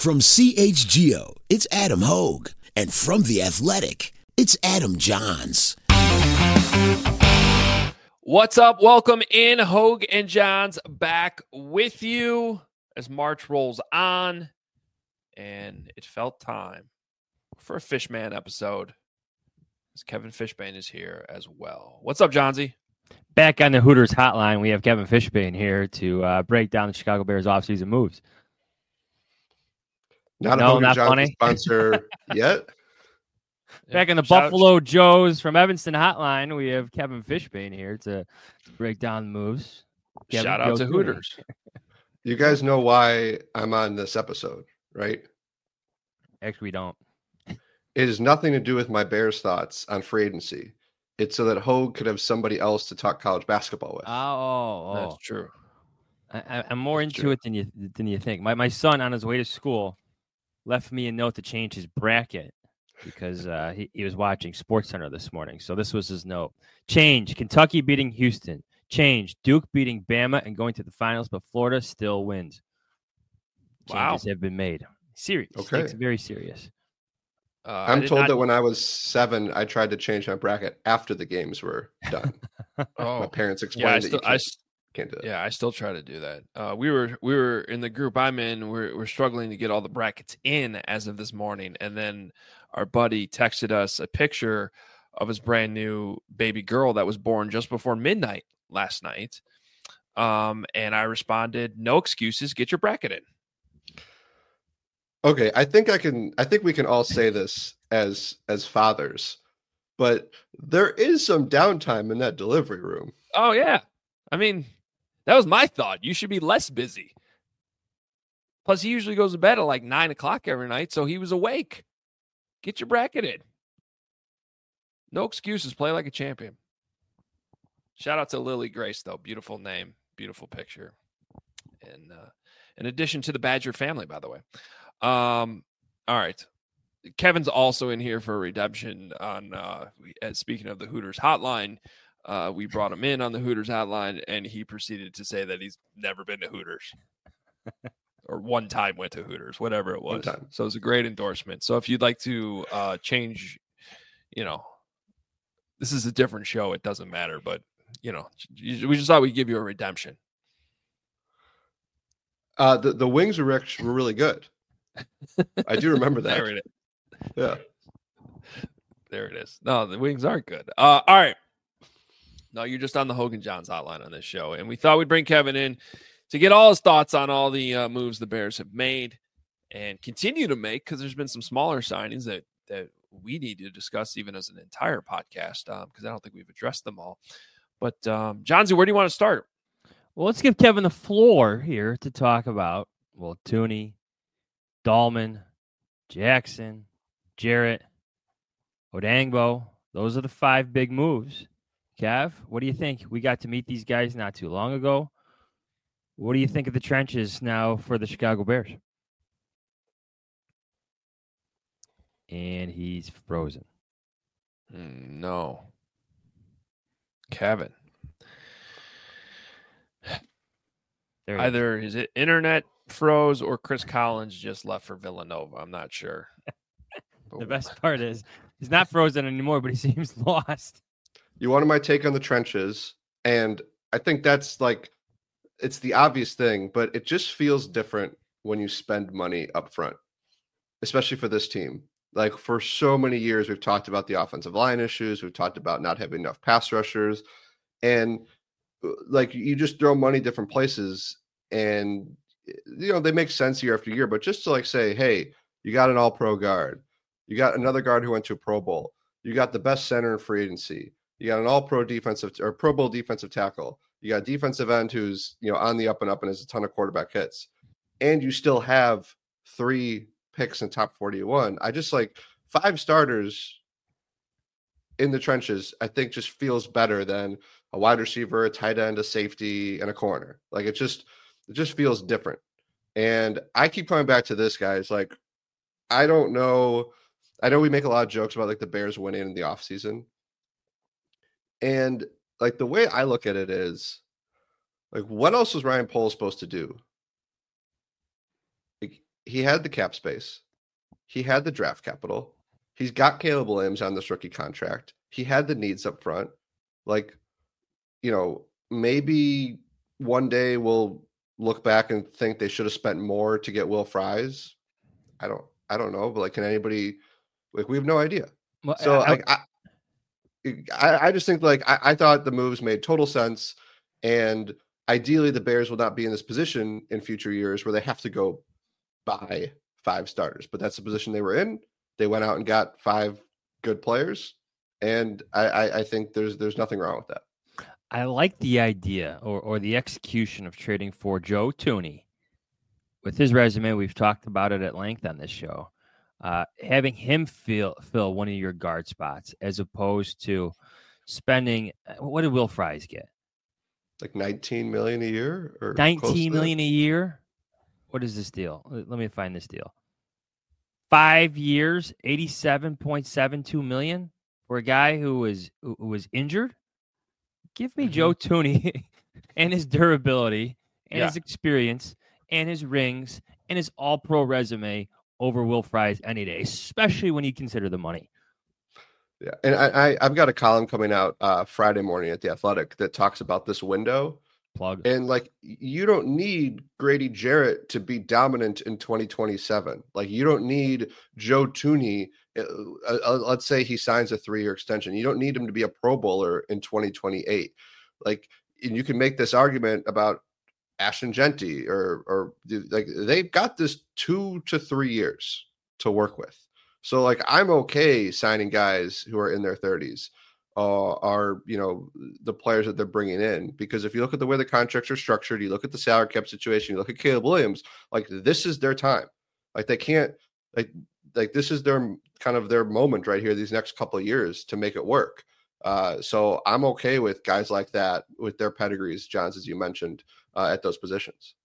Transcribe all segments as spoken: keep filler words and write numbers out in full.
From C H G O, it's Adam Hogue. And from The Athletic, it's Adam Johns. What's up? Welcome in. Hogue and Johns back with you as March rolls on. And it felt time for a Fishman episode, as Kevin Fishbane is here as well. What's up, Johnsy? Back on the Hooters hotline, we have Kevin Fishbane here to uh, break down the Chicago Bears offseason moves. Not no, a not Johnsy funny. sponsor yet. Back in the Shout Buffalo out. Joes from Evanston hotline, we have Kevin Fishbane here to, to break down the moves. Kevin, Shout out to Cooney. Hooters. You guys know why I'm on this episode, right? Actually, we don't. It has nothing to do with my Bears thoughts on free agency. It's so that Hogue could have somebody else to talk college basketball with. Oh, oh, That's true. I, I'm more That's into true. it than you than you think. My my son on his way to school left me a note to change his bracket because uh, he, he was watching SportsCenter this morning. So this was his note. Change, Kentucky beating Houston. Change, Duke beating Bama and going to the finals, but Florida still wins. Changes Wow. have been made. Serious. Okay. It's very serious. Uh, I I'm did told not- that when I was seven, I tried to change my bracket after the games were done. My Oh, parents yeah, explained I that still, you I, can't, s- can't do that. yeah, I still try to do that. Uh, we were we were in the group I'm in. We're we're struggling to get all the brackets in as of this morning, and then our buddy texted us a picture of his brand new baby girl that was born just before midnight last night. Um, and I responded, "No excuses. Get your bracket in." Okay, I think I can. I think we can all say this as as fathers, but there is some downtime in that delivery room. Oh yeah, I mean, that was my thought. You should be less busy. Plus, he usually goes to bed at like nine o'clock every night, so he was awake. Get your bracket in. No excuses. Play like a champion. Shout out to Lily Grace, though. Beautiful name, beautiful picture, and uh, in addition to the Badger family, by the way. Um, all right. Kevin's also in here for a redemption on, uh, we- uh, speaking of the Hooters hotline, uh, we brought him in on the Hooters hotline and he proceeded to say that he's never been to Hooters or one time went to Hooters, whatever it One was. time. So it's a great endorsement. So if you'd like to, uh, change, you know, this is a different show. It doesn't matter, but you know, we just thought we'd give you a redemption. Uh, the the wings were rec- were really good. I do remember that. There it is. Yeah. There it is. No, the wings aren't good. Uh, all right. No, you're just on the Hogan Johns hotline on this show. And we thought we'd bring Kevin in to get all his thoughts on all the uh, moves the Bears have made and continue to make, because there's been some smaller signings that, that we need to discuss even as an entire podcast, because um, I don't think we've addressed them all. But, um, Johnsy, where do you want to start? Well, let's give Kevin the floor here to talk about, well, Tooney, Dahlman, Jackson, Jarrett, Odangbo. Those are the five big moves. Kev, what do you think? We got to meet these guys not too long ago. What do you think of the trenches now for the Chicago Bears? And he's frozen. Mm, no. Kevin. There he is. Either his internet froze or Chris Collins just left for Villanova. I'm not sure. The best part is he's not frozen anymore, but he seems lost. You wanted my take on the trenches, and I think that's like it's the obvious thing, but it just feels different when you spend money up front, especially for this team. Like for so many years, we've talked about the offensive line issues. We've talked about not having enough pass rushers, and like you just throw money different places, and you know they make sense year after year. But just to like say, hey, you got an All-Pro guard, you got another guard who went to a Pro Bowl, you got the best center in free agency, you got an All-Pro defensive or Pro Bowl defensive tackle, you got a defensive end who's you know on the up and up and has a ton of quarterback hits, and you still have three picks in top forty-one. I just like five starters in the trenches, I think just feels better than a wide receiver, a tight end, a safety, and a corner. Like it just, it just feels different. And I keep coming back to this, guys. Like, I don't know. I know we make a lot of jokes about like the Bears winning in the offseason. And like the way I look at it is like, what else was Ryan Poles supposed to do? Like, he had the cap space. He had the draft capital. He's got Caleb Williams on this rookie contract. He had the needs up front. Like, you know, maybe one day we'll look back and think they should have spent more to get Will Fries. I don't, I don't know, but like, can anybody, like, we have no idea. Well, So I, like, I, I, I just think like, I, I thought the moves made total sense. And ideally the Bears will not be in this position in future years where they have to go buy five starters, but that's the position they were in. They went out and got five good players. And I, I, I think there's, there's nothing wrong with that. I like the idea or, or the execution of trading for Joe Thuney. With his resume, we've talked about it at length on this show. Uh, having him fill fill one of your guard spots as opposed to spending. What did Will Fries get? Like nineteen million a year, or nineteen million a year. What is this deal? Let me find this deal. Five years, eighty-seven point seven two million for a guy who was who was injured. Give me mm-hmm. Joe Thuney and his durability and yeah. his experience and his rings and his all-pro resume over Will Fries any day, especially when you consider the money. Yeah, and I, I I've got a column coming out uh, Friday morning at The Athletic that talks about this window. Plug. And like, you don't need Grady Jarrett to be dominant in twenty twenty-seven. Like, you don't need Joe Thuney. Uh, uh, let's say he signs a three-year extension. You don't need him to be a Pro Bowler in twenty twenty-eight. Like, and you can make this argument about Ashton Genty or or like they've got this two to three years to work with. So like, I'm okay signing guys who are in their thirties. Uh, are, you know, the players that they're bringing in, because if you look at the way the contracts are structured, you look at the salary cap situation, you look at Caleb Williams, like, this is their time. Like, they can't, like, like this is their kind of their moment right here, these next couple of years to make it work. Uh, so I'm okay with guys like that with their pedigrees, Johns, as you mentioned, uh, at those positions.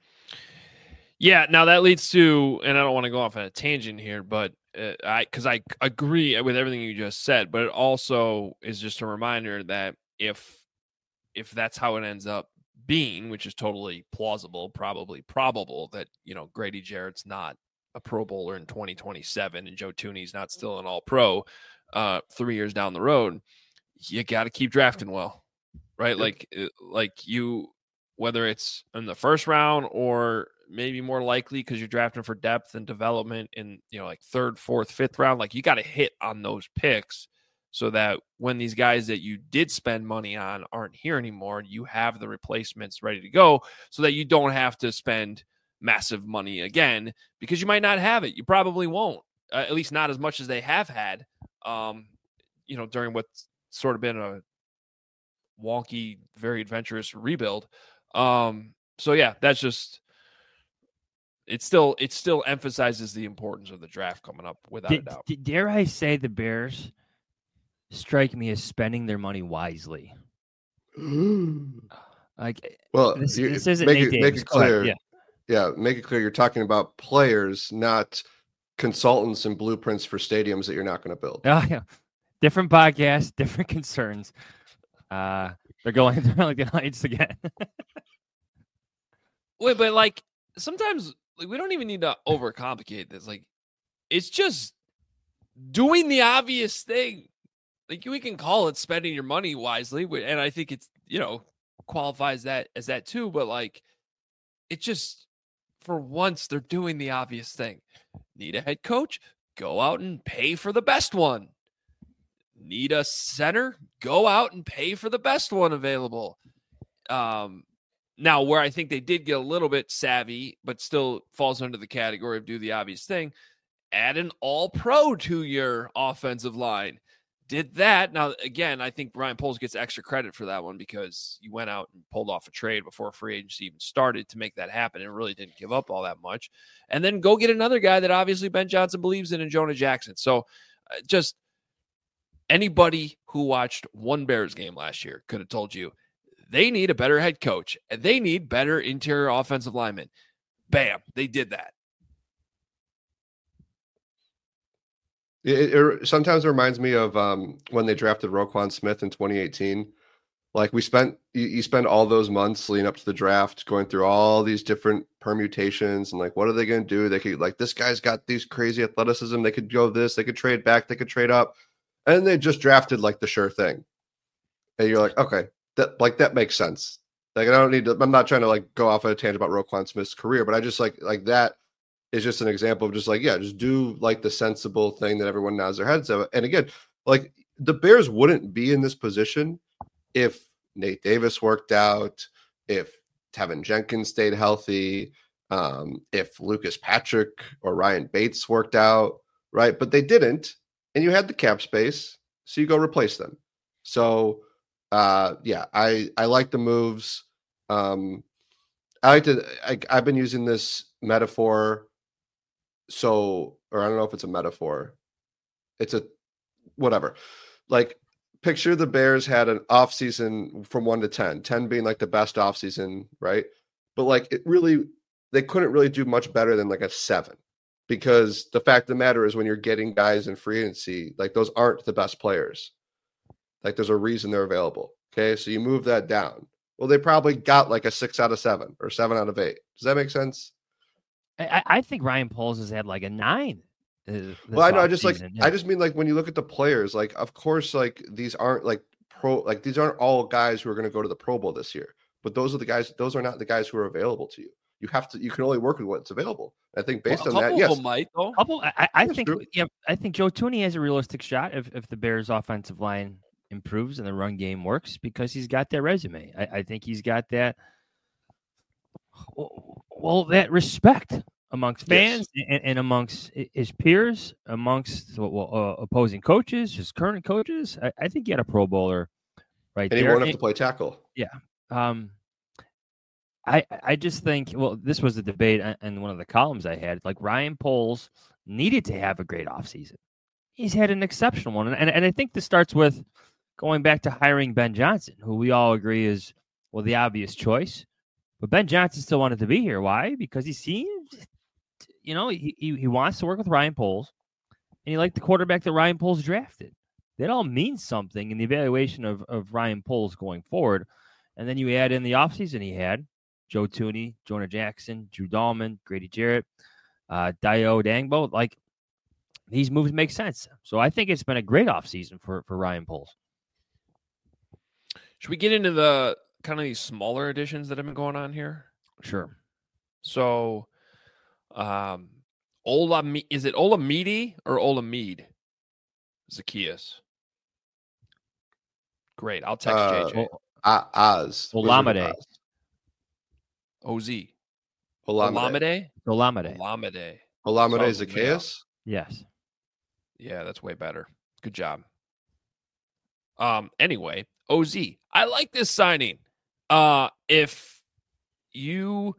Yeah. Now that leads to, and I don't want to go off on a tangent here, but Uh, I because I agree with everything you just said, but it also is just a reminder that if if that's how it ends up being, which is totally plausible, probably probable, that, you know, Grady Jarrett's not a Pro Bowler in twenty twenty-seven and Joe Thuney's not still an All-Pro uh, three years down the road, you got to keep drafting well, right? Like like you, whether it's in the first round or maybe more likely because you're drafting for depth and development in, you know, like third, fourth, fifth round, like you got to hit on those picks so that when these guys that you did spend money on aren't here anymore, you have the replacements ready to go so that you don't have to spend massive money again, because you might not have it. You probably won't, uh, at least not as much as they have had, um, you know, during what's sort of been a wonky, very adventurous rebuild. Um, so yeah, that's just, It still it still emphasizes the importance of the draft coming up, without D- a doubt. D- dare I say the Bears strike me as spending their money wisely? Like, well, this, you, this isn't make Nate it, Davis. make it Go ahead. clear. Yeah. yeah, make it clear. You're talking about players, not consultants and blueprints for stadiums that you're not going to build. Oh, yeah. Different podcast, different concerns. Uh, they're going they're like the Lions again. Wait, but like sometimes, like, we don't even need to overcomplicate this. Like, it's just doing the obvious thing. Like, we can call it spending your money wisely, and I think it's, you know, qualifies that as that too. But like, it just, for once, they're doing the obvious thing. Need a head coach? Go out and pay for the best one. Need a center? Go out and pay for the best one available. Um. Now, where I think they did get a little bit savvy, but still falls under the category of do the obvious thing, add an all-pro to your offensive line. Did that. Now, again, I think Ryan Poles gets extra credit for that one because you went out and pulled off a trade before free agency even started to make that happen and really didn't give up all that much. And then go get another guy that obviously Ben Johnson believes in, in Jonah Jackson. So uh, just anybody who watched one Bears game last year could have told you, they need a better head coach, and they need better interior offensive linemen. Bam, they did that. It, it sometimes it reminds me of um, when they drafted Roquan Smith in twenty eighteen. Like we spent, you, you spend all those months leading up to the draft, going through all these different permutations and like, what are they going to do? They could like, this guy's got these crazy athleticism. They could go this, they could trade back, they could trade up. And they just drafted like the sure thing. And you're like, okay, that like, that makes sense. Like, I don't need to, I'm not trying to like go off on a tangent about Roquan Smith's career, but I just like, like that is just an example of just like, yeah, just do like the sensible thing that everyone nods their heads at. And again, like the Bears wouldn't be in this position if Nate Davis worked out, if Tevin Jenkins stayed healthy, um, if Lucas Patrick or Ryan Bates worked out, right? But they didn't, and you had the cap space, so you go replace them. So, uh, yeah, I I like the moves. Um, I like to. I, I've been using this metaphor. So, or I don't know if it's a metaphor. It's a whatever. Like, picture the Bears had an offseason from one to ten, ten being like the best offseason, right? But like it really, they couldn't really do much better than like a seven, because the fact of the matter is when you're getting guys in free agency, like those aren't the best players. Like there's a reason they're available. Okay. So you move that down. Well, they probably got like a six out of seven or seven out of eight. Does that make sense? I, I think Ryan Poles has had like a nine. Uh, well, I know. I just like, yeah. I just mean like when you look at the players, like, of course, like these aren't like pro, like these aren't all guys who are going to go to the Pro Bowl this year, but those are the guys, those are not the guys who are available to you. You have to, you can only work with what's available. I think based well, on that, yes. Might, though. Couple, I, I think, true. yeah, I think Joe Thuney has a realistic shot if, if the Bears offensive line improves and the run game works, because he's got that resume. I, I think he's got that, well, that respect amongst fans yes. and, and amongst his peers, amongst well, uh, opposing coaches, his current coaches. I, I think he had a Pro Bowler right and there. And he won't have and, to play tackle. Yeah. Um, I I just think, well, this was the debate in one of the columns I had. Like Ryan Poles needed to have a great offseason. He's had an exceptional one. And, and I think this starts with going back to hiring Ben Johnson, who we all agree is, well, the obvious choice. But Ben Johnson still wanted to be here. Why? Because he seems, you know, he, he, he wants to work with Ryan Poles, and he liked the quarterback that Ryan Poles drafted. That all means something in the evaluation of, of Ryan Poles going forward. And then you add in the offseason he had Joe Thuney, Jonah Jackson, Drew Dahlman, Grady Jarrett, uh, Dayo Odeyingbo. Like, these moves make sense. So I think it's been a great offseason for, for Ryan Poles. Should we get into the kind of these smaller additions that have been going on here? Sure. So, um, Ola, is it Olamide or Olamide? Zacchaeus. Great. I'll text uh, J J. Uh, Oz. Olamide. O Z. Olamide. Olamide. Olamide. Olamide Zacchaeus? Yes. Yeah, that's way better. Good job. Um. Anyway, O Z. I like this signing. Uh, if you,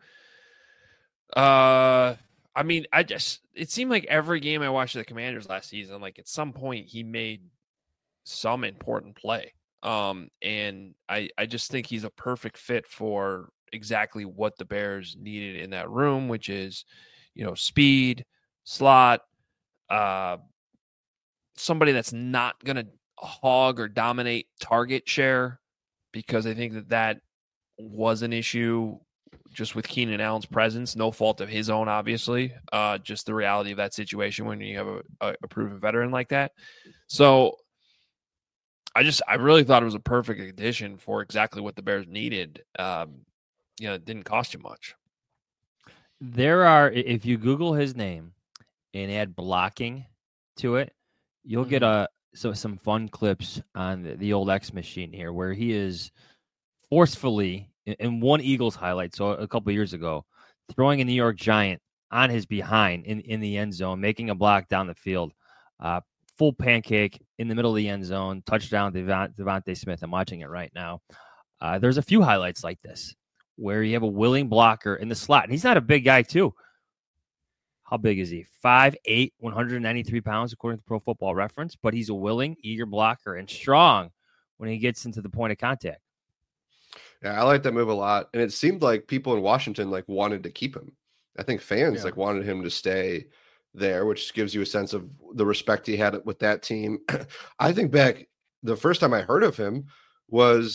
uh, I mean, I just, it seemed like every game I watched the Commanders last season, like at some point he made some important play. Um, and I, I just think he's a perfect fit for exactly what the Bears needed in that room, which is, you know, speed, slot, uh, somebody that's not going to hog or dominate target share, because I think that that was an issue just with Keenan Allen's presence, no fault of his own, obviously, uh, just the reality of that situation when you have a, a, a proven veteran like that. So I just, I really thought it was a perfect addition for exactly what the Bears needed. Um, you know, it didn't cost you much. There are, if you Google his name and add blocking to it, you'll mm-hmm. get a, so some fun clips on the, the old X machine here, where he is forcefully in one Eagles highlight. So a couple of years ago, throwing a New York Giant on his behind in, in the end zone, making a block down the field, uh, full pancake in the middle of the end zone, touchdown Devont- Devontae Smith. I'm watching it right now. Uh, there's a few highlights like this where you have a willing blocker in the slot. And he's not a big guy too. How big is he? five eight, one hundred ninety-three pounds, according to Pro Football Reference. But he's a willing, eager blocker and strong when he gets into the point of contact. Yeah, I like that move a lot. And it seemed like people in Washington like wanted to keep him. I think fans yeah. like wanted him to stay there, which gives you a sense of the respect he had with that team. I think back, the first time I heard of him was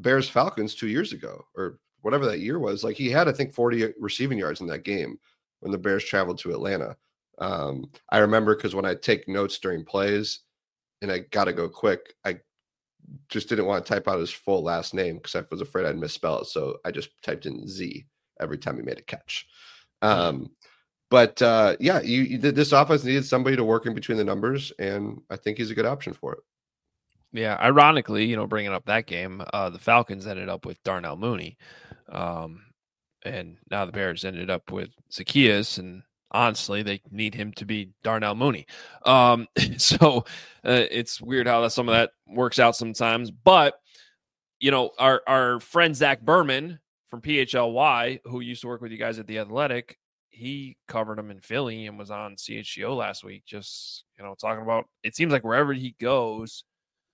Bears Falcons two years ago, or whatever that year was. Like he had, I think, forty receiving yards in that game when the Bears traveled to Atlanta. Um, I remember because when I take notes during plays and I got to go quick, I just didn't want to type out his full last name because I was afraid I'd misspell it. So I just typed in Z every time he made a catch. Um, but uh, yeah, you, you did this offense needed somebody to work in between the numbers, and I think he's a good option for it. Yeah, ironically, you know, bringing up that game, uh, the Falcons ended up with Darnell Mooney, um, and now the Bears ended up with Zacchaeus, and honestly, they need him to be Darnell Mooney. Um, so uh, it's weird how that, some of that works out sometimes. But, you know, our, our friend Zach Berman from P H L Y, who used to work with you guys at The Athletic, he covered him in Philly and was on C H G O last week, just, you know, talking about, it seems like wherever he goes,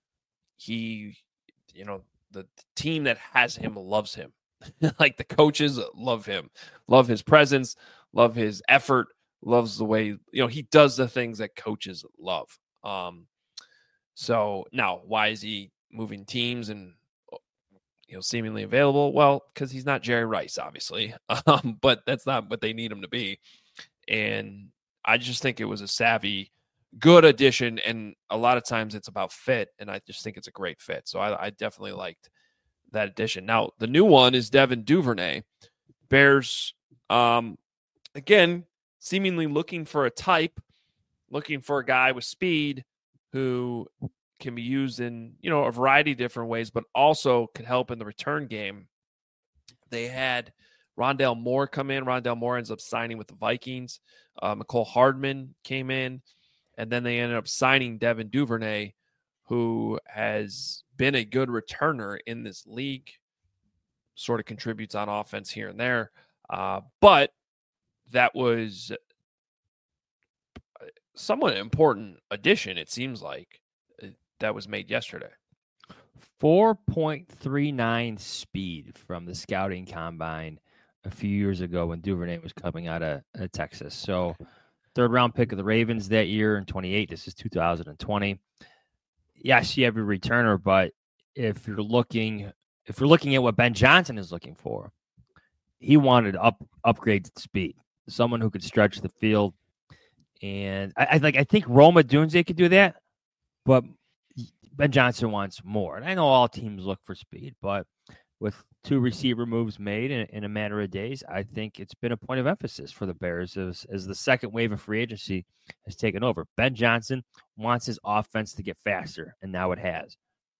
he, you know, the, the team that has him loves him. Like the coaches love him, love his presence, love his effort, loves the way, you know, he does the things that coaches love. Um, so now why is he moving teams and, you know, seemingly available? Well, because he's not Jerry Rice, obviously, um, but that's not what they need him to be. And I just think it was a savvy, good addition. And a lot of times it's about fit. And I just think it's a great fit. So I, I definitely liked that addition. Now, the new one is Devin Duvernay. Bears, um, again, seemingly looking for a type, looking for a guy with speed who can be used in, you know, a variety of different ways, but also could help in the return game. They had Rondale Moore come in. Rondale Moore ends up signing with the Vikings. Uh, McCole Hardman came in, and then they ended up signing Devin Duvernay, who has been a good returner in this league, sort of contributes on offense here and there. Uh, but that was somewhat important addition, it seems like, that was made yesterday. four point three nine speed from the scouting combine a few years ago when Duvernay was coming out of, of Texas. So third round pick of the Ravens that year in twenty-eight. This is two thousand twenty. Yes, you have a returner, but if you're looking, if you're looking at what Ben Johnson is looking for, he wanted up upgrade speed, someone who could stretch the field. And I, I like, I think Roma Dunze could do that, but Ben Johnson wants more. And I know all teams look for speed, but with two receiver moves made in, in a matter of days, I think it's been a point of emphasis for the Bears as, as the second wave of free agency has taken over. Ben Johnson wants his offense to get faster, and now it has.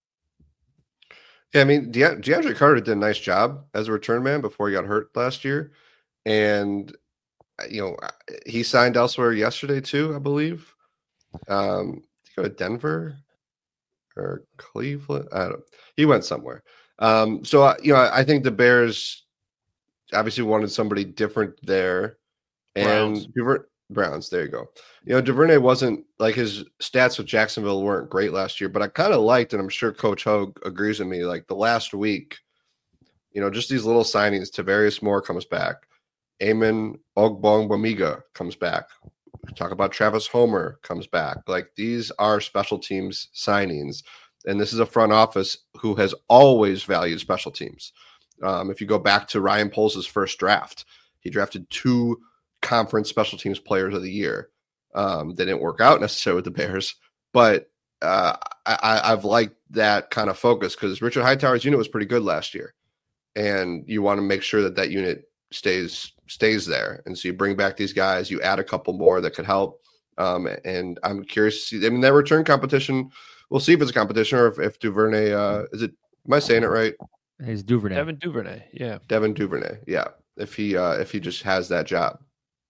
Yeah, I mean, De- DeAndre Carter did a nice job as a return man before he got hurt last year. And, you know, he signed elsewhere yesterday too, I believe. Um, did he go to Denver or Cleveland? I don't know. He went somewhere. Um, so, uh, you know, I think the Bears obviously wanted somebody different there. And Browns. Duver- Browns, there you go. You know, Duvernay wasn't, like, his stats with Jacksonville weren't great last year, but I kind of liked, and I'm sure Coach Hogue agrees with me, like the last week, you know, just these little signings. Tavarius Moore comes back. Eamon Ogbongbemiga comes back. Talk about Travis Homer comes back. Like, these are special teams signings. And this is a front office who has always valued special teams. Um, if you go back to Ryan Poles' first draft, he drafted two conference special teams players of the year. Um, they didn't work out necessarily with the Bears, but uh, I, I've liked that kind of focus because Richard Hightower's unit was pretty good last year. And you want to make sure that that unit stays stays there. And so you bring back these guys, you add a couple more that could help. Um, and I'm curious to see, I mean, that return competition, we'll see if it's a competition or if, if Duvernay, uh, is it, am I saying it right? It's Duvernay. Devin Duvernay, yeah. Devin Duvernay, yeah. If he uh, if he just has that job.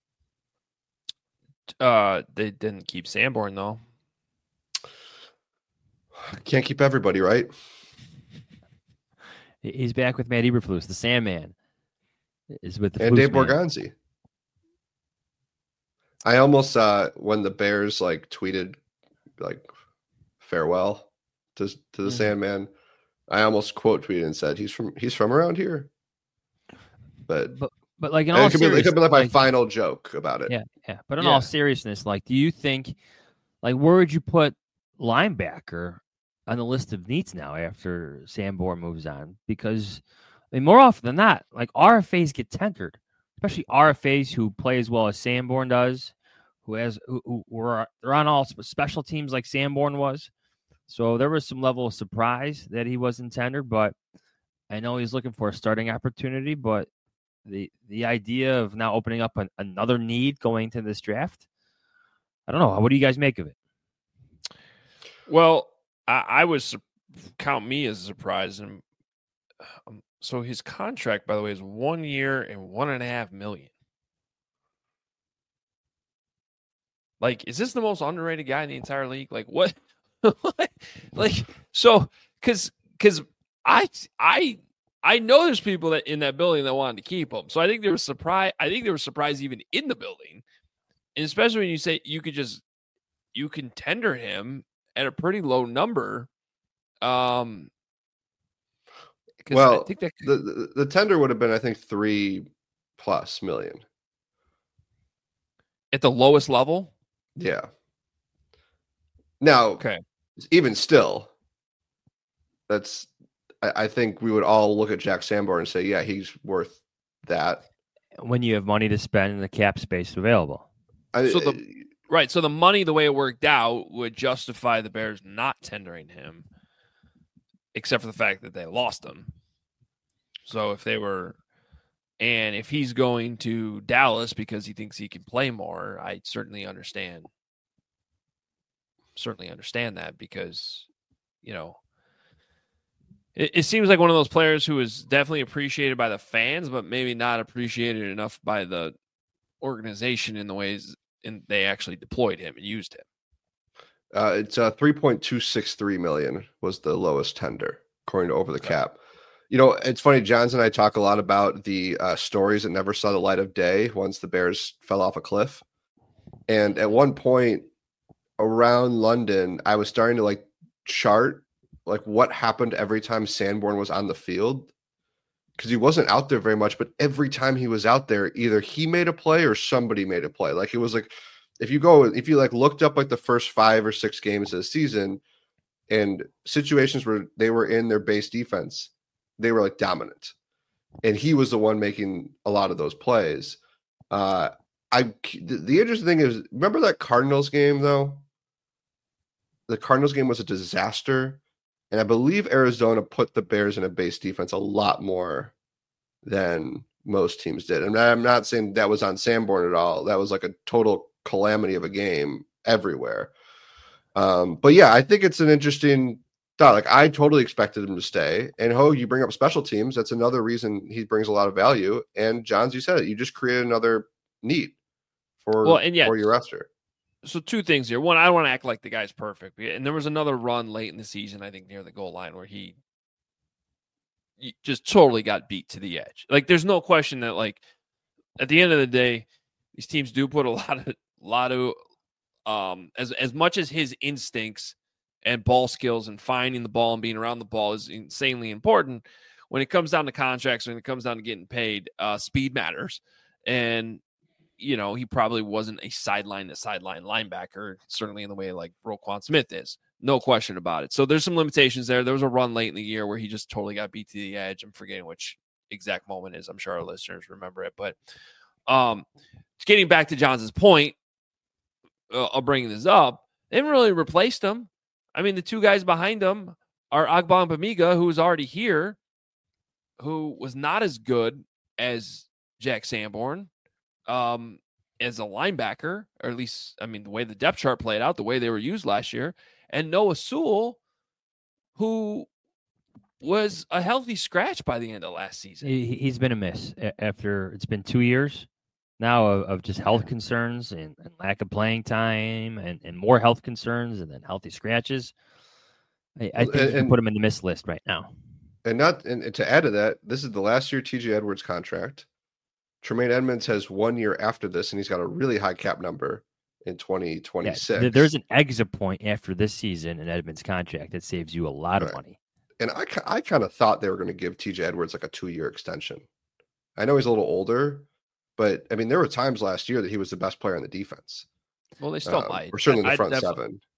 Uh, they didn't keep Sanborn, though. Can't keep everybody, right? He's back with Matt Eberflus, the Sandman. Is with the and Dave man. Borgonzi. I almost uh when the Bears like tweeted like farewell to to the mm-hmm. Sandman, I almost quote tweeted and said he's from he's from around here. But but, but like in all it could, be, it could be like my like, final joke about it. Yeah, yeah. But in yeah. all seriousness, like, do you think, like, where would you put linebacker on the list of needs now after Sanborn moves on, because I mean, more often than not, like R F As get tendered, especially R F As who play as well as Sanborn does, who has who, who were they're on all special teams like Sanborn was. So there was some level of surprise that he wasn't tendered, but I know he's looking for a starting opportunity. But the the idea of now opening up an, another need going to this draft, I don't know. What do you guys make of it? Well, I, I was count me as a surprise, and um, so his contract, by the way, is one year and one and a half million. Like, is this the most underrated guy in the entire league? Like, what? Like, so, because because I I I know there's people that in that building that wanted to keep him. So I think there was surprise. I think there was surprise even in the building, and especially when you say you could just you can tender him at a pretty low number. Um, well, I think that the, the the tender would have been, I think, three plus million at the lowest level. Yeah. Now, okay. Even still, that's I, I think we would all look at Jack Sanborn and say, yeah, he's worth that. When you have money to spend and the cap space available. I, so the right, so the money, the way it worked out, would justify the Bears not tendering him, except for the fact that they lost him. So if they were, and if he's going to Dallas because he thinks he can play more, I certainly understand. Certainly understand that because, you know, it, it seems like one of those players who is definitely appreciated by the fans, but maybe not appreciated enough by the organization in the ways in they actually deployed him and used him. Uh, it's uh, three point two six three million was the lowest tender, according to Over the Cap. You know, it's funny, Johns and I talk a lot about the uh, stories that never saw the light of day once the Bears fell off a cliff. And at one point, around London, I was starting to like chart like what happened every time Sanborn was on the field, because he wasn't out there very much, but every time he was out there, either he made a play or somebody made a play. Like it was like, if you go, if you like looked up like the first five or six games of the season and situations where they were in their base defense, they were like dominant. And he was the one making a lot of those plays. Uh, I, the, the interesting thing is, remember that Cardinals game though? The Cardinals game was a disaster, and I believe Arizona put the Bears in a base defense a lot more than most teams did. And I'm not saying that was on Sanborn at all. That was like a total calamity of a game everywhere. Um, but yeah, I think it's an interesting thought. Like I totally expected him to stay. And Ho, you bring up special teams. That's another reason he brings a lot of value. And Johns, you said it. You just created another need for, well, and yeah, for your roster. So two things here. One, I don't want to act like the guy's perfect. And there was another run late in the season, I think near the goal line, where he just totally got beat to the edge. Like there's no question that like at the end of the day, these teams do put a lot of lot of um as as much as his instincts and ball skills and finding the ball and being around the ball is insanely important. When it comes down to contracts, when it comes down to getting paid, uh, speed matters. And you know, he probably wasn't a sideline to sideline linebacker, certainly in the way like Roquan Smith is. No question about it. So there's some limitations there. There was a run late in the year where he just totally got beat to the edge. I'm forgetting which exact moment is. I'm sure our listeners remember it. But um, getting back to Johns' point, uh, I'll bring this up. They haven't really replaced him. I mean, the two guys behind him are Agba and Bamiga, who was already here, who was not as good as Jack Sanborn. Um, as a linebacker, or at least, I mean, the way the depth chart played out, the way they were used last year, and Noah Sewell, who was a healthy scratch by the end of last season. He, he's been a miss after it's been two years now of, of just health concerns and, and lack of playing time and, and more health concerns and then healthy scratches. I, I think and, you can put him in the miss list right now. And not, and to add to that, this is the last year T J Edwards contract. Tremaine Edmonds has one year after this, and he's got a really high cap number in twenty twenty-six. Yeah, there's an exit point after this season in Edmonds' contract that saves you a lot right. of money. And I, I kind of thought they were going to give T J Edwards like a two-year extension. I know he's a little older, but I mean, there were times last year that he was the best player on the defense. Well, they still um, might. Or certainly in the I, front I seven.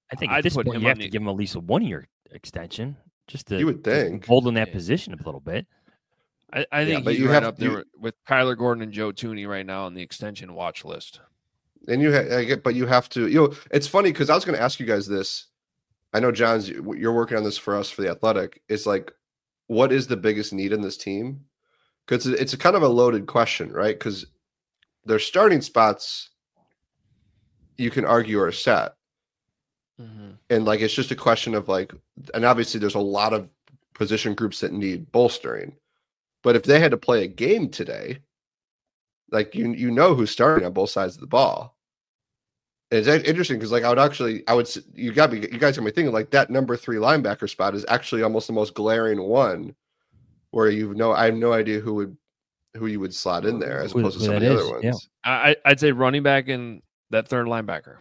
I think at I'd this put point him you on have to the- give him at least a one-year extension just to, You would to think. hold in that Yeah. position a little bit. I, I Yeah, think but he's you right have- up there you- with Kyler Gordon and Joe Tooney right now on the extension watch list. And you, ha- I get, but you have to. You know, it's funny because I was going to ask you guys this. I know John's. You're working on this for us for the Athletic. It's like, what is the biggest need in this team? Because it's a kind of a loaded question, right? Because their starting spots, you can argue, are set, Mm-hmm. and like it's just a question of like, and obviously there's a lot of position groups that need bolstering. But if they had to play a game today, like you you know who's starting on both sides of the ball. And it's a- interesting because like I would actually I would s- you got me you guys got me thinking like that number three linebacker spot is actually almost the most glaring one, where you know I have no idea who would who you would slot in there as Who- opposed to who some of that the is, other yeah. ones. I, I'd say running back and that third linebacker.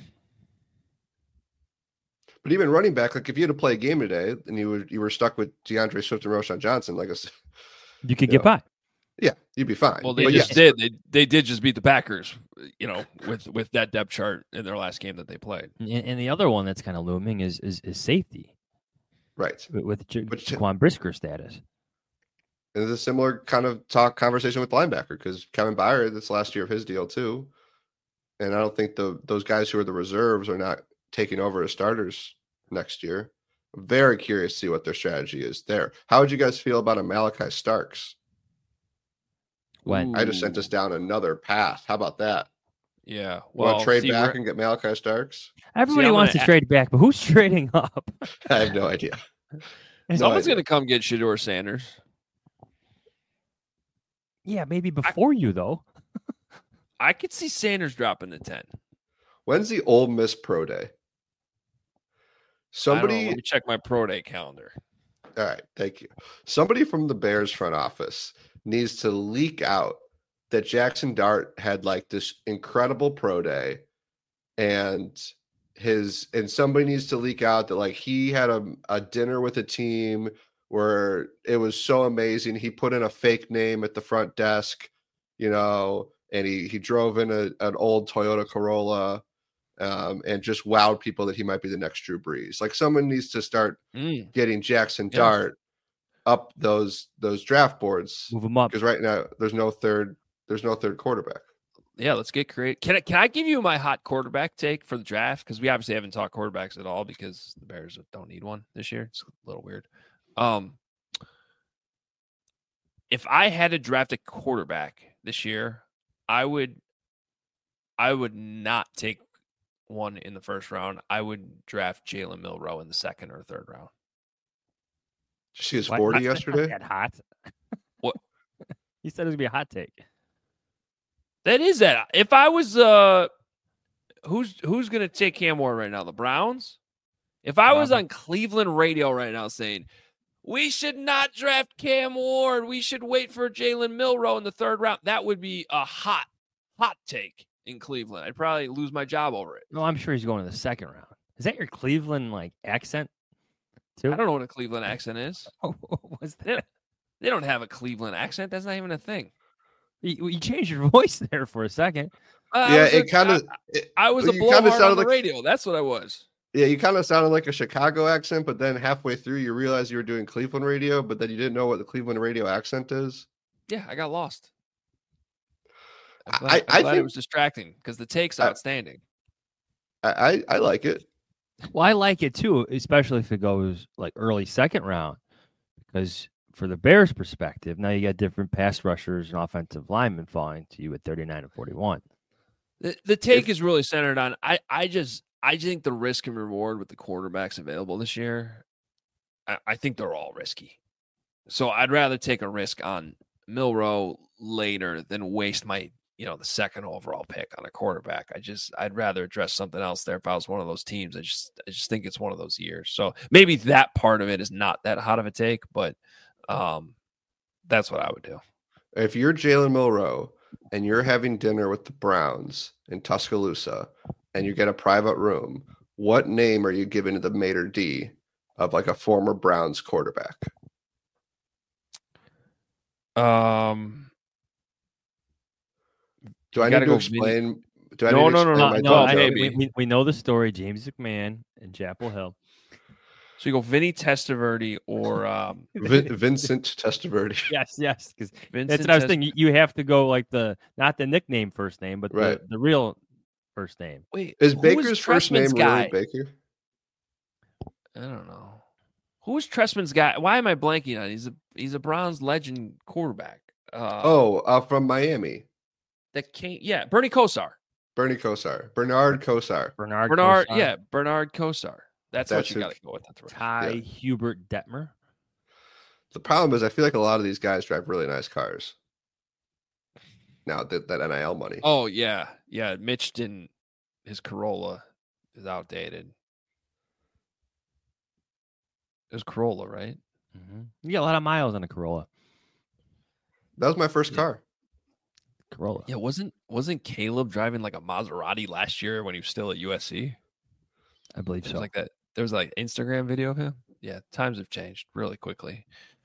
But even running back, like if you had to play a game today and you were you were stuck with DeAndre Swift and Roshan Johnson, like I said, You could Yeah. get by. yeah, you'd be fine. Well, they But just yes, did. They they did just beat the Packers, you know, with with that depth chart in their last game that they played. And, and the other one that's kind of looming is is, is safety right. with, with J- Which- Jaquan Brisker status. And it's a similar kind of talk conversation with linebacker because Kevin Byard, that's last year of his deal too. And I don't think the those guys who are the reserves are not taking over as starters next year. I'm very curious to see what their strategy is there. How would you guys feel about a Malachi Starks? When I just sent us down another path. How about that? Yeah. Well, Well, trade see, back we're- and get Malachi Starks? everybody I'm wants gonna to a- trade back, but who's trading up? I have no idea. No someone's idea. going to come get Shador Sanders. Yeah, maybe before you though. I could see Sanders dropping to ten. When's the Ole Miss Pro Day? I don't know. Somebody Let me check my pro day calendar. All right, thank you. Somebody from the Bears front office needs to leak out that Jackson Dart had like this incredible pro day, and his and somebody needs to leak out that like he had a, a dinner with a team where it was so amazing. He put in a fake name at the front desk, you know, and he he drove in a, an old Toyota Corolla. Um, and just wowed people that he might be the next Drew Brees. Like someone needs to start Mm. getting Jackson Yeah. Dart up those those draft boards Move them up. because right now there's no third there's no third quarterback. Yeah, let's get creative. Can I, can I give you my hot quarterback take for the draft? Because we obviously haven't talked quarterbacks at all because the Bears don't need one this year. It's a little weird. Um, if I had to draft a quarterback this year, I would I would not take one in the first round. I would draft Jalen Milroe in the second or third round. Did you see his Why- forty that's not yesterday? that hot. What? He said it was gonna be a hot take. That is that. If I was uh who's who's gonna take Cam Ward right now? The Browns? If I was Probably. on Cleveland radio right now saying we should not draft Cam Ward, we should wait for Jalen Milroe in the third round, that would be a hot, hot take in Cleveland. I'd probably lose my job over it. No, I'm sure he's going to the second round. Is that your Cleveland like accent? Too? I don't know what a Cleveland accent is. What was They that? they don't have a Cleveland accent. That's not even a thing. You, you changed your voice there for a second. Uh, I Yeah, was a- it kind of I, I was a you kinda blowhard on sounded the like- radio. That's what I was. yeah, you kind of sounded like a Chicago accent, but then halfway through you realized you were doing Cleveland radio, but then you didn't know what the Cleveland radio accent is. Yeah, I got lost. I'm I- glad, I- I'm I glad it think- was distracting because the take's I- outstanding. I I, I like it. Well, I like it too, especially if it goes like early second round, because for the Bears' perspective, now you got different pass rushers and offensive linemen falling to you at thirty-nine and forty-one. The, the take If- is really centered on I, I just I think the risk and reward with the quarterbacks available this year, I, I think they're all risky. So I'd rather take a risk on Milroe later than waste my you know the second overall pick on a quarterback. I just I'd rather address something else there if I was one of those teams. I just I just think it's one of those years. So maybe that part of it is not that hot of a take, but um that's what I would do. If you're Jalen Milroe and you're having dinner with the Browns in Tuscaloosa and you get a private room, what name are you giving to the maitre d' of like a former Browns quarterback? Um Do I You need gotta to go Vinny- explain Do I No, need to no, no, explain no, my no, no, I, joke? baby. we, we, we know the story. James McMahon and Chapel Hill. So you go Vinny Testaverde or um, Vin- Vincent Testaverde. Yes, yes, because Vincent. that's what I was Test- thinking. You you have to go like the not the nickname first name, but Right. the, the real first name. Wait, Is who Baker's was first Tressman's name guy? really Baker? I don't know. Who was Tressman's guy? Why am I blanking on? He's a he's a Browns legend quarterback. Uh, Oh, uh, from Miami. that came. Yeah, Bernie Kosar. Bernie Kosar. Bernard Kosar. Bernard. Bernard. Kosar, Yeah, Bernard Kosar. That's, That's what you who- got to go with. That's right. Ty Yeah. Hubert Detmer. The problem is, I feel like a lot of these guys drive really nice cars. Now that that N I L money. Oh yeah, yeah. Mitch didn't. His Corolla is outdated. It was Corolla, right? Mm-hmm. You got a lot of miles on a Corolla. That was my first Yeah. car. Corolla. Yeah, wasn't wasn't Caleb driving like a Maserati last year when he was still at U S C? I believe There so. was like that. There was like Instagram video of him. Yeah, times have changed really quickly.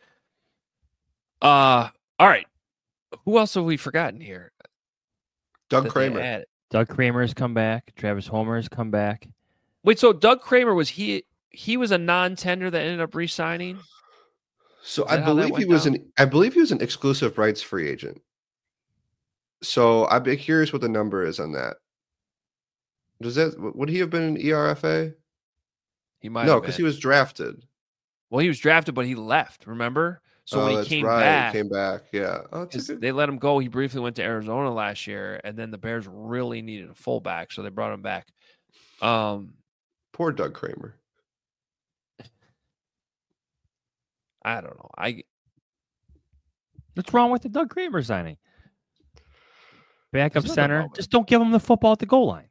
Uh all right. Who else have we forgotten here? Doug that they Kramer. added? Doug Kramer has come back. Travis Homer has come back. Wait, so Doug Kramer was he? He was a non-tender that ended up re-signing. So Is I that how that believe he went was down? an I believe he was an exclusive rights free agent. So I'd be curious what the number is on that. Does that would he have been an E R F A? He might. No, have because been. he was drafted. Well, he was drafted, but he left. Remember? So oh, when he that's came right. back, Came back. Yeah. Oh, that's a 'cause good- they let him go. He briefly went to Arizona last year, and then the Bears really needed a fullback, so they brought him back. Um, Poor Doug Kramer. I don't know. I What's wrong with the Doug Kramer signing? Backup There's nothing center. wrong with Just don't give him the football at the goal line.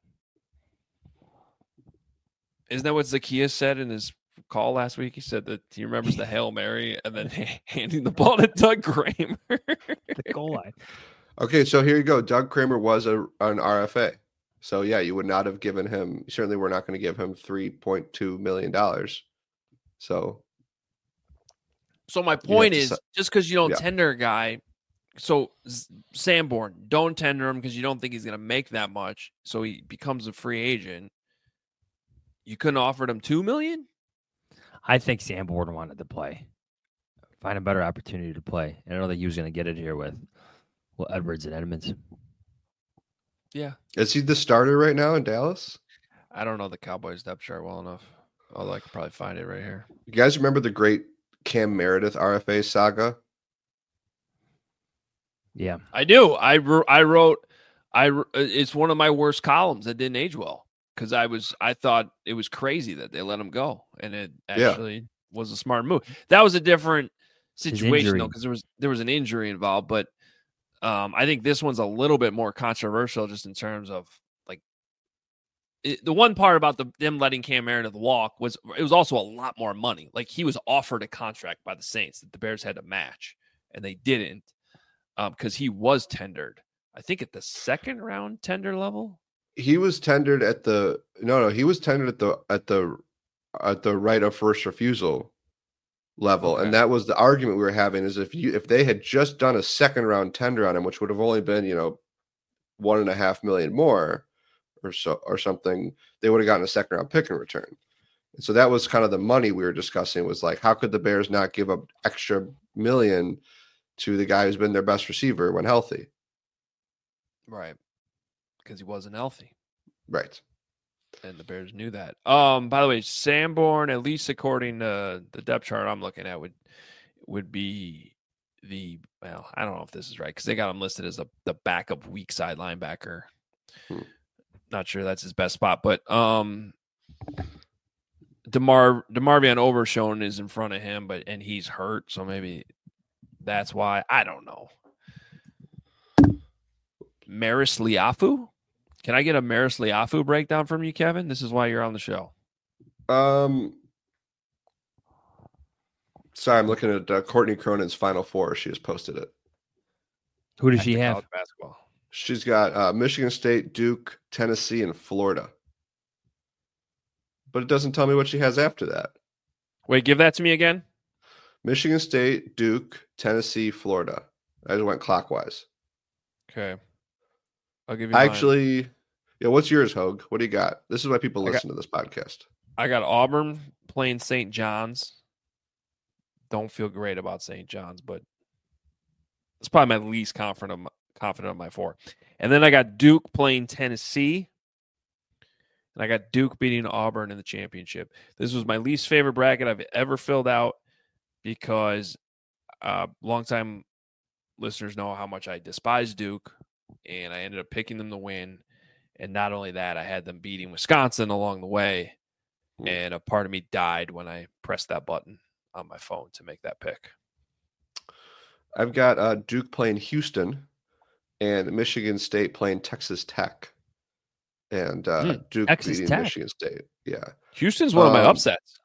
isn't that what Zacchaeus said in his call last week? He said that he remembers the Hail Mary and then handing the ball to Doug Kramer. The goal line. Okay, so here you go. Doug Kramer was a, an R F A. So yeah, you would not have given him. Certainly, we're not going to give him three point two million dollars. So So my have point to is, si- just because you don't Yeah. tender a guy, so Z- Sanborn, don't tender him because you don't think he's going to make that much. So he becomes a free agent. You couldn't offer him two million. I think Sanborn wanted to play. Find a better opportunity to play. I don't think he was going to get it here with well, Edwards and Edmonds. Yeah, is he the starter right now in Dallas? I don't know the Cowboys depth chart well enough. Although I could probably find it right here. You guys remember the great Cam Meredith R F A saga? Yeah. I do. I wr- I wrote. I wr- it's one of my worst columns that didn't age well because I was I thought it was crazy that they let him go, and it Yeah. actually was a smart move. That was a different situation injury. though because there was there was an injury involved, but um, I think this one's a little bit more controversial just in terms of like it, the one part about the them letting Cam Meredith walk was it was also a lot more money. Like he was offered a contract by the Saints that the Bears had to match, and they didn't because he was tendered. I think at the second round tender level. He was tendered at the no no he was tendered at the at the at the right of first refusal level, Okay. and that was the argument we were having. Is if you if they had just done a second round tender on him, which would have only been you know one and a half million more or so or something, they would have gotten a second round pick in return. And so that was kind of the money we were discussing. Was like, how could the Bears not give up extra million to the guy who's been their best receiver when healthy? Right. Because he wasn't healthy. Right. And the Bears knew that. Um, by the way, Sanborn, at least according to the depth chart I'm looking at, would would be the well, I don't know if this is right because they got him listed as the, the backup weak side linebacker. Hmm. Not sure that's his best spot, but um DeMar DeMarvion Overshone is in front of him, but and he's hurt, so maybe that's why. I don't know. Maris Liafu? Can I get a Maris Liafu breakdown from you, Kevin? This is why you're on the show. Um, sorry, I'm looking at uh, Courtney Cronin's Final Four. She just posted it. Who does Back she to have? college basketball. She's got uh, Michigan State, Duke, Tennessee, and Florida. But it doesn't tell me what she has after that. Wait, give that to me again. Michigan State, Duke, Tennessee, Florida. I just went clockwise. Okay. I'll give you I mine. actually, Yeah, what's yours, Hogue? What do you got? This is why people I listen to this podcast. I got Auburn playing Saint John's. Don't feel great about Saint John's, but it's probably my least confident of my, confident of my four. And then I got Duke playing Tennessee. And I got Duke beating Auburn in the championship. This was my least favorite bracket I've ever filled out because uh, longtime listeners know how much I despise Duke, and I ended up picking them to win. And not only that, I had them beating Wisconsin along the way, and a part of me died when I pressed that button on my phone to make that pick. I've got uh, Duke playing Houston and Michigan State playing Texas Tech. And uh, Mm, Duke Texas beating Tech. Michigan State. Yeah. Houston's one of my Um, upsets.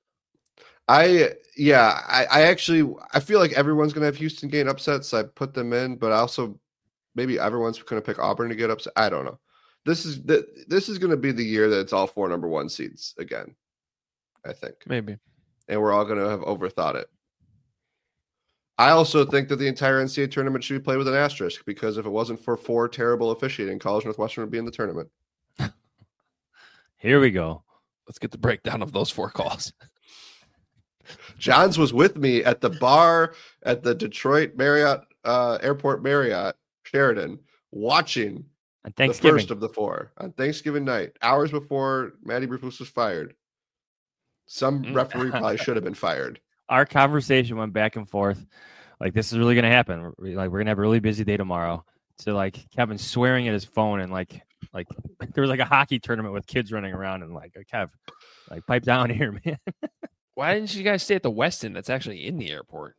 I yeah, I, I actually I feel like everyone's gonna have Houston gain upsets. So I put them in, but I also maybe everyone's gonna pick Auburn to get upset. I don't know. This is the this is gonna be the year that it's all four number one seeds again, I think. Maybe. And we're all gonna have overthought it. I also think that the entire N C double A tournament should be played with an asterisk because if it wasn't for four terrible officiating, College Northwestern would be in the tournament. Here we go. Let's get the breakdown of those four calls. Johns was with me at the bar at the Detroit Marriott uh, Airport Marriott Sheridan, watching On the Thanksgiving. first of the four on Thanksgiving night, hours before Matty Eberflus was fired. Some Mm. referee probably should have been fired. Our conversation went back and forth. Like, this is really going to happen. We're- Like, we're going to have a really busy day tomorrow. So, like, Kevin swearing at his phone and, like, like there was like a hockey tournament with kids running around and, like, Kev, like, pipe down here, man. Why didn't you guys stay at the Westin that's actually in the airport?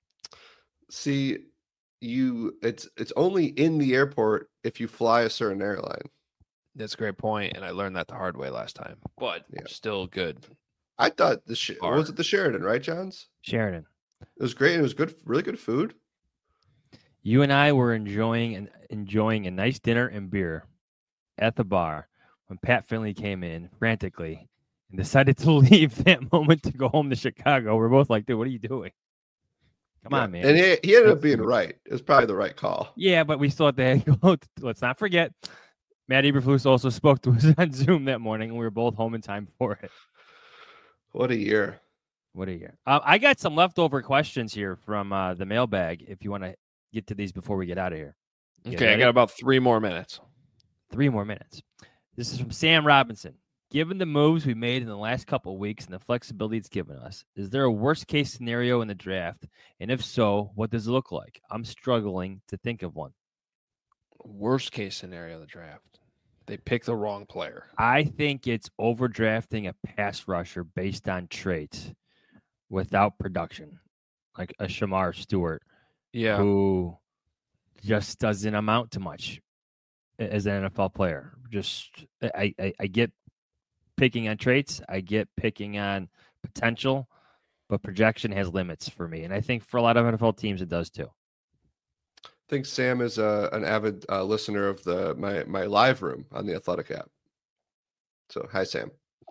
See, you it's it's only in the airport if you fly a certain airline. That's a great point, and I learned that the hard way last time. But Yeah. still good. I thought the Sh- Bar. was it the Sheridan, right, Johns? Sheridan. It was great. It was good, really good food. You and I were enjoying and enjoying a nice dinner and beer at the bar when Pat Finley came in frantically and decided to leave that moment to go home to Chicago. We're both like, dude, what are you doing? Come Yeah. on, man. And he, he ended up That's being good. right. It was probably the right call. Yeah, but we still had to go. Let's not forget, Matt Eberflus also spoke to us on Zoom that morning, and we were both home in time for it. What a year. What a year. Uh, I got some leftover questions here from uh, the mailbag if you want to get to these before we get out of here. You Okay, I ready? got about three more minutes. Three more minutes. This is from Sam Robinson. Given the moves we made in the last couple of weeks and the flexibility it's given us, is there a worst case scenario in the draft? And if so, what does it look like? I'm struggling to think of one. Worst case scenario of the draft. They pick the wrong player. I think it's overdrafting a pass rusher based on traits without production, like a Shamar Stewart, Yeah. who just doesn't amount to much as an N F L player. Just I, I, I get picking on traits, I get picking on potential, but projection has limits for me, and I think for a lot of N F L teams it does too. I think Sam is uh, an avid uh, listener of the my my live room on the Athletic app. So hi, Sam.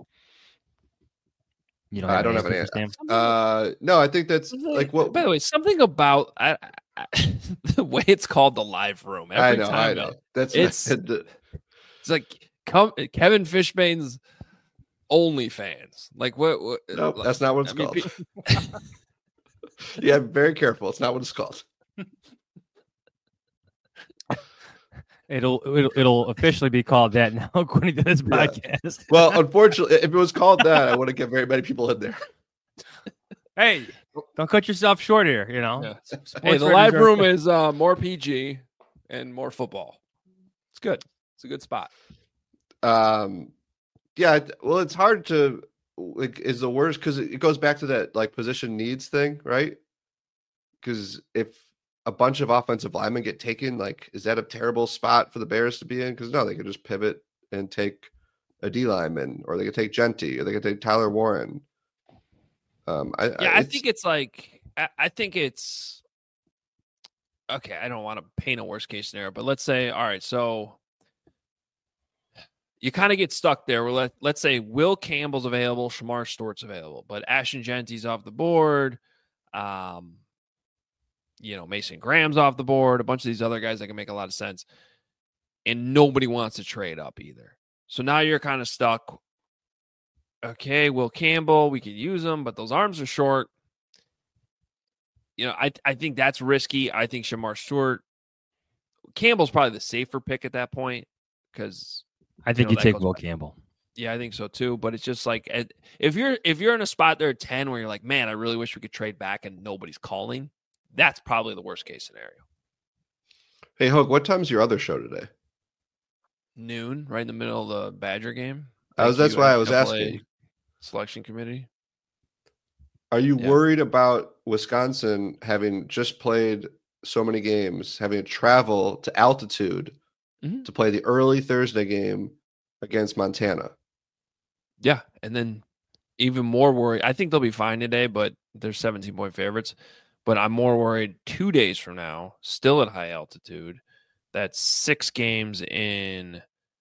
You know, I don't have an answer answer. for Sam? Uh, no, I think that's like what. By the way, something about I, I, the way it's called the live room. Every I know, time I know. That's It's- the- It's like come, Kevin Fishbane's OnlyFans. Like what? what Nope, like- that's not what it's I mean, called. pe- Yeah, very careful. It's not what it's called. It'll, it'll it'll officially be called that now, according to this Yeah. podcast. Well, unfortunately, if it was called that, I wouldn't get very many people in there. Hey, don't cut yourself short here. You know, Yeah. Sports Hey, the writers live are- room is uh, more P G and more football. It's good. It's a good spot. Um, yeah. it- Well, it's hard to like is the worst because it goes back to that like position needs thing, right? Because if a bunch of offensive linemen get taken, like, is that a terrible spot for the Bears to be in? Because no, they could just pivot and take a D lineman, or they could take Genty, or they could take Tyler Warren. Um, I, Yeah, I, I think it's like I, I think it's okay. I don't want to paint a worst case scenario, but let's say, all right, so you kind of get stuck there. Where let let's say Will Campbell's available, Shamar Stewart's available, but Ashton Genty's off the board. Um, you know, Mason Graham's off the board. A bunch of these other guys that can make a lot of sense, and nobody wants to trade up either. So now you're kind of stuck. Okay, Will Campbell, we could use him, but those arms are short. You know, I I think that's risky. I think Shamar Stewart, Campbell's probably the safer pick at that point because I think you, you, know, take goes Will back. Campbell. Yeah, I think so too. But it's just like if you're if you're in a spot there at ten where you're like, man, I really wish we could trade back and nobody's calling. That's probably the worst case scenario. Hey, Hogue, what time's your other show today? Noon, right in the middle of the Badger game. I was, that's why I was asking. Selection committee. Are you Yeah. worried about Wisconsin having just played so many games, having to travel to altitude mm-hmm. to play the early Thursday game against Montana? Yeah, and then even more worried. I think they'll be fine today, but they're seventeen-point favorites. But I'm more worried two days from now, still at high altitude. That's six games in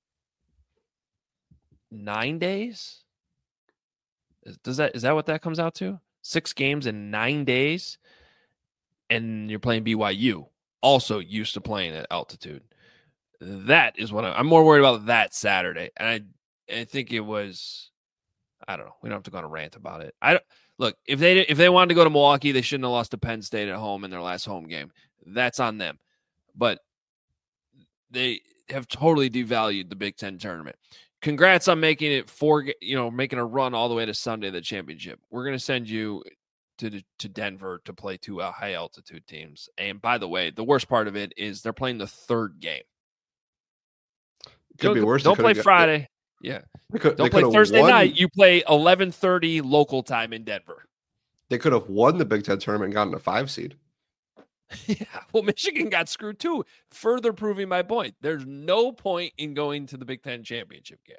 nine days. Does that is that what that comes out to? Six games in nine days, and you're playing B Y U, also used to playing at altitude. That is what I, I'm more worried about. That Saturday, and I, I think it was. I don't know. We don't have to go on a rant about it. I don't, look if they if they wanted to go to Milwaukee, they shouldn't have lost to Penn State at home in their last home game. That's on them, but they have totally devalued the Big Ten tournament. Congrats on making it four, you know, making a run all the way to Sunday, the championship. We're going to send you to to Denver to play two uh, high altitude teams. And by the way, the worst part of it is they're playing the third game. Could don't, be worse. Don't play got, Friday. They, yeah. They could, don't they play Thursday won, night. You play eleven thirty local time in Denver. They could have won the Big Ten tournament and gotten a five seed. Yeah, well, Michigan got screwed too, further proving my point. There's no point in going to the Big Ten championship game.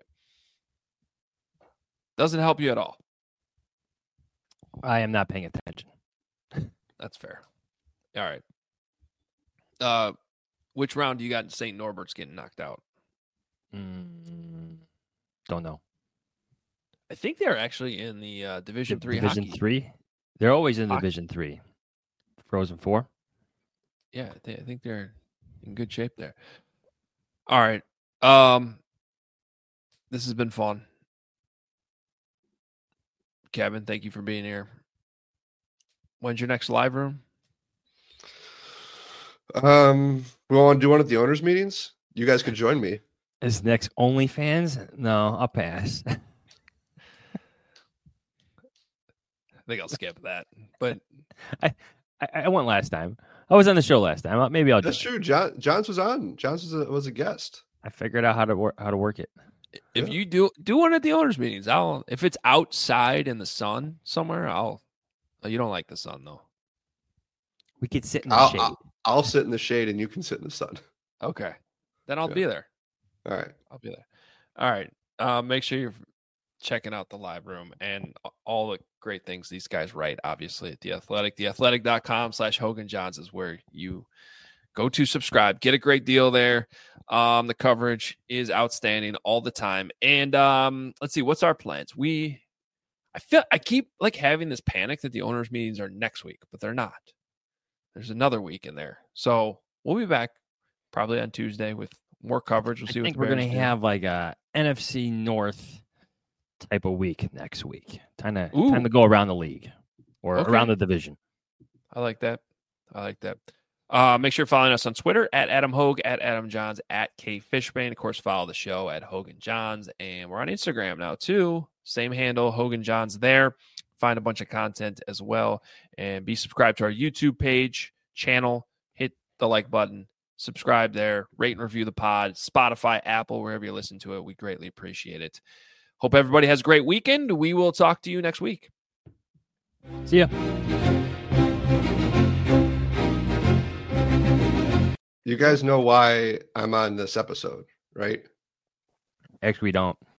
Doesn't help you at all. I am not paying attention. That's fair. All right. Uh, which round do you got Saint Norbert's getting knocked out? Mm, don't know. I think they're actually in the uh, Division D- Three. Division hockey. Three. They're always in Hockey. Division Three. Frozen Four. Yeah, they, I think they're in good shape there. All right. Um, this has been fun. Kevin, thank you for being here. When's your next live room? Um, we want to do one at the owners' meetings. You guys could join me. Is next OnlyFans? No, I'll pass. I think I'll skip that. But I, I, I went last time. I was on the show last time. Maybe I'll. That's do true. John Johns was on. Johns was a, was a guest. I figured out how to work how to work it. if Yeah. you do do one at the owners' meetings, I'll. If it's outside in the sun somewhere, I'll. Oh, you don't like the sun though. We could sit in the I'll, shade. I'll I'll sit in the shade and you can sit in the sun. Okay, then I'll Yeah. be there. All right. I'll be there. All right. Uh, make sure you're checking out the live room and all the great things these guys write, obviously, at The Athletic. The athletic dot com slash Hogan Johns is where you go to subscribe. Get a great deal there. Um, the coverage is outstanding all the time. And um, let's see, what's our plans? We, I feel, I keep like having this panic that the owners' meetings are next week, but they're not. There's another week in there. So we'll be back probably on Tuesday with more coverage. We'll see I what think the we're Bears gonna do. have like a N F C North type of week next week. Time to Ooh. time to go around the league or Okay. around the division. I like that. I like that. Uh, make sure you're following us on Twitter at Adam Hogue, at Adam Johns, at K Fishbane. Of course, follow the show at Hogan Johns. And we're on Instagram now, too. Same handle, Hogan Johns there. Find a bunch of content as well. And be subscribed to our YouTube page, channel. Hit the like button. Subscribe there. Rate and review the pod. Spotify, Apple, wherever you listen to it. We greatly appreciate it. Hope everybody has a great weekend. We will talk to you next week. See ya. You guys know why I'm on this episode, right? Actually, we don't.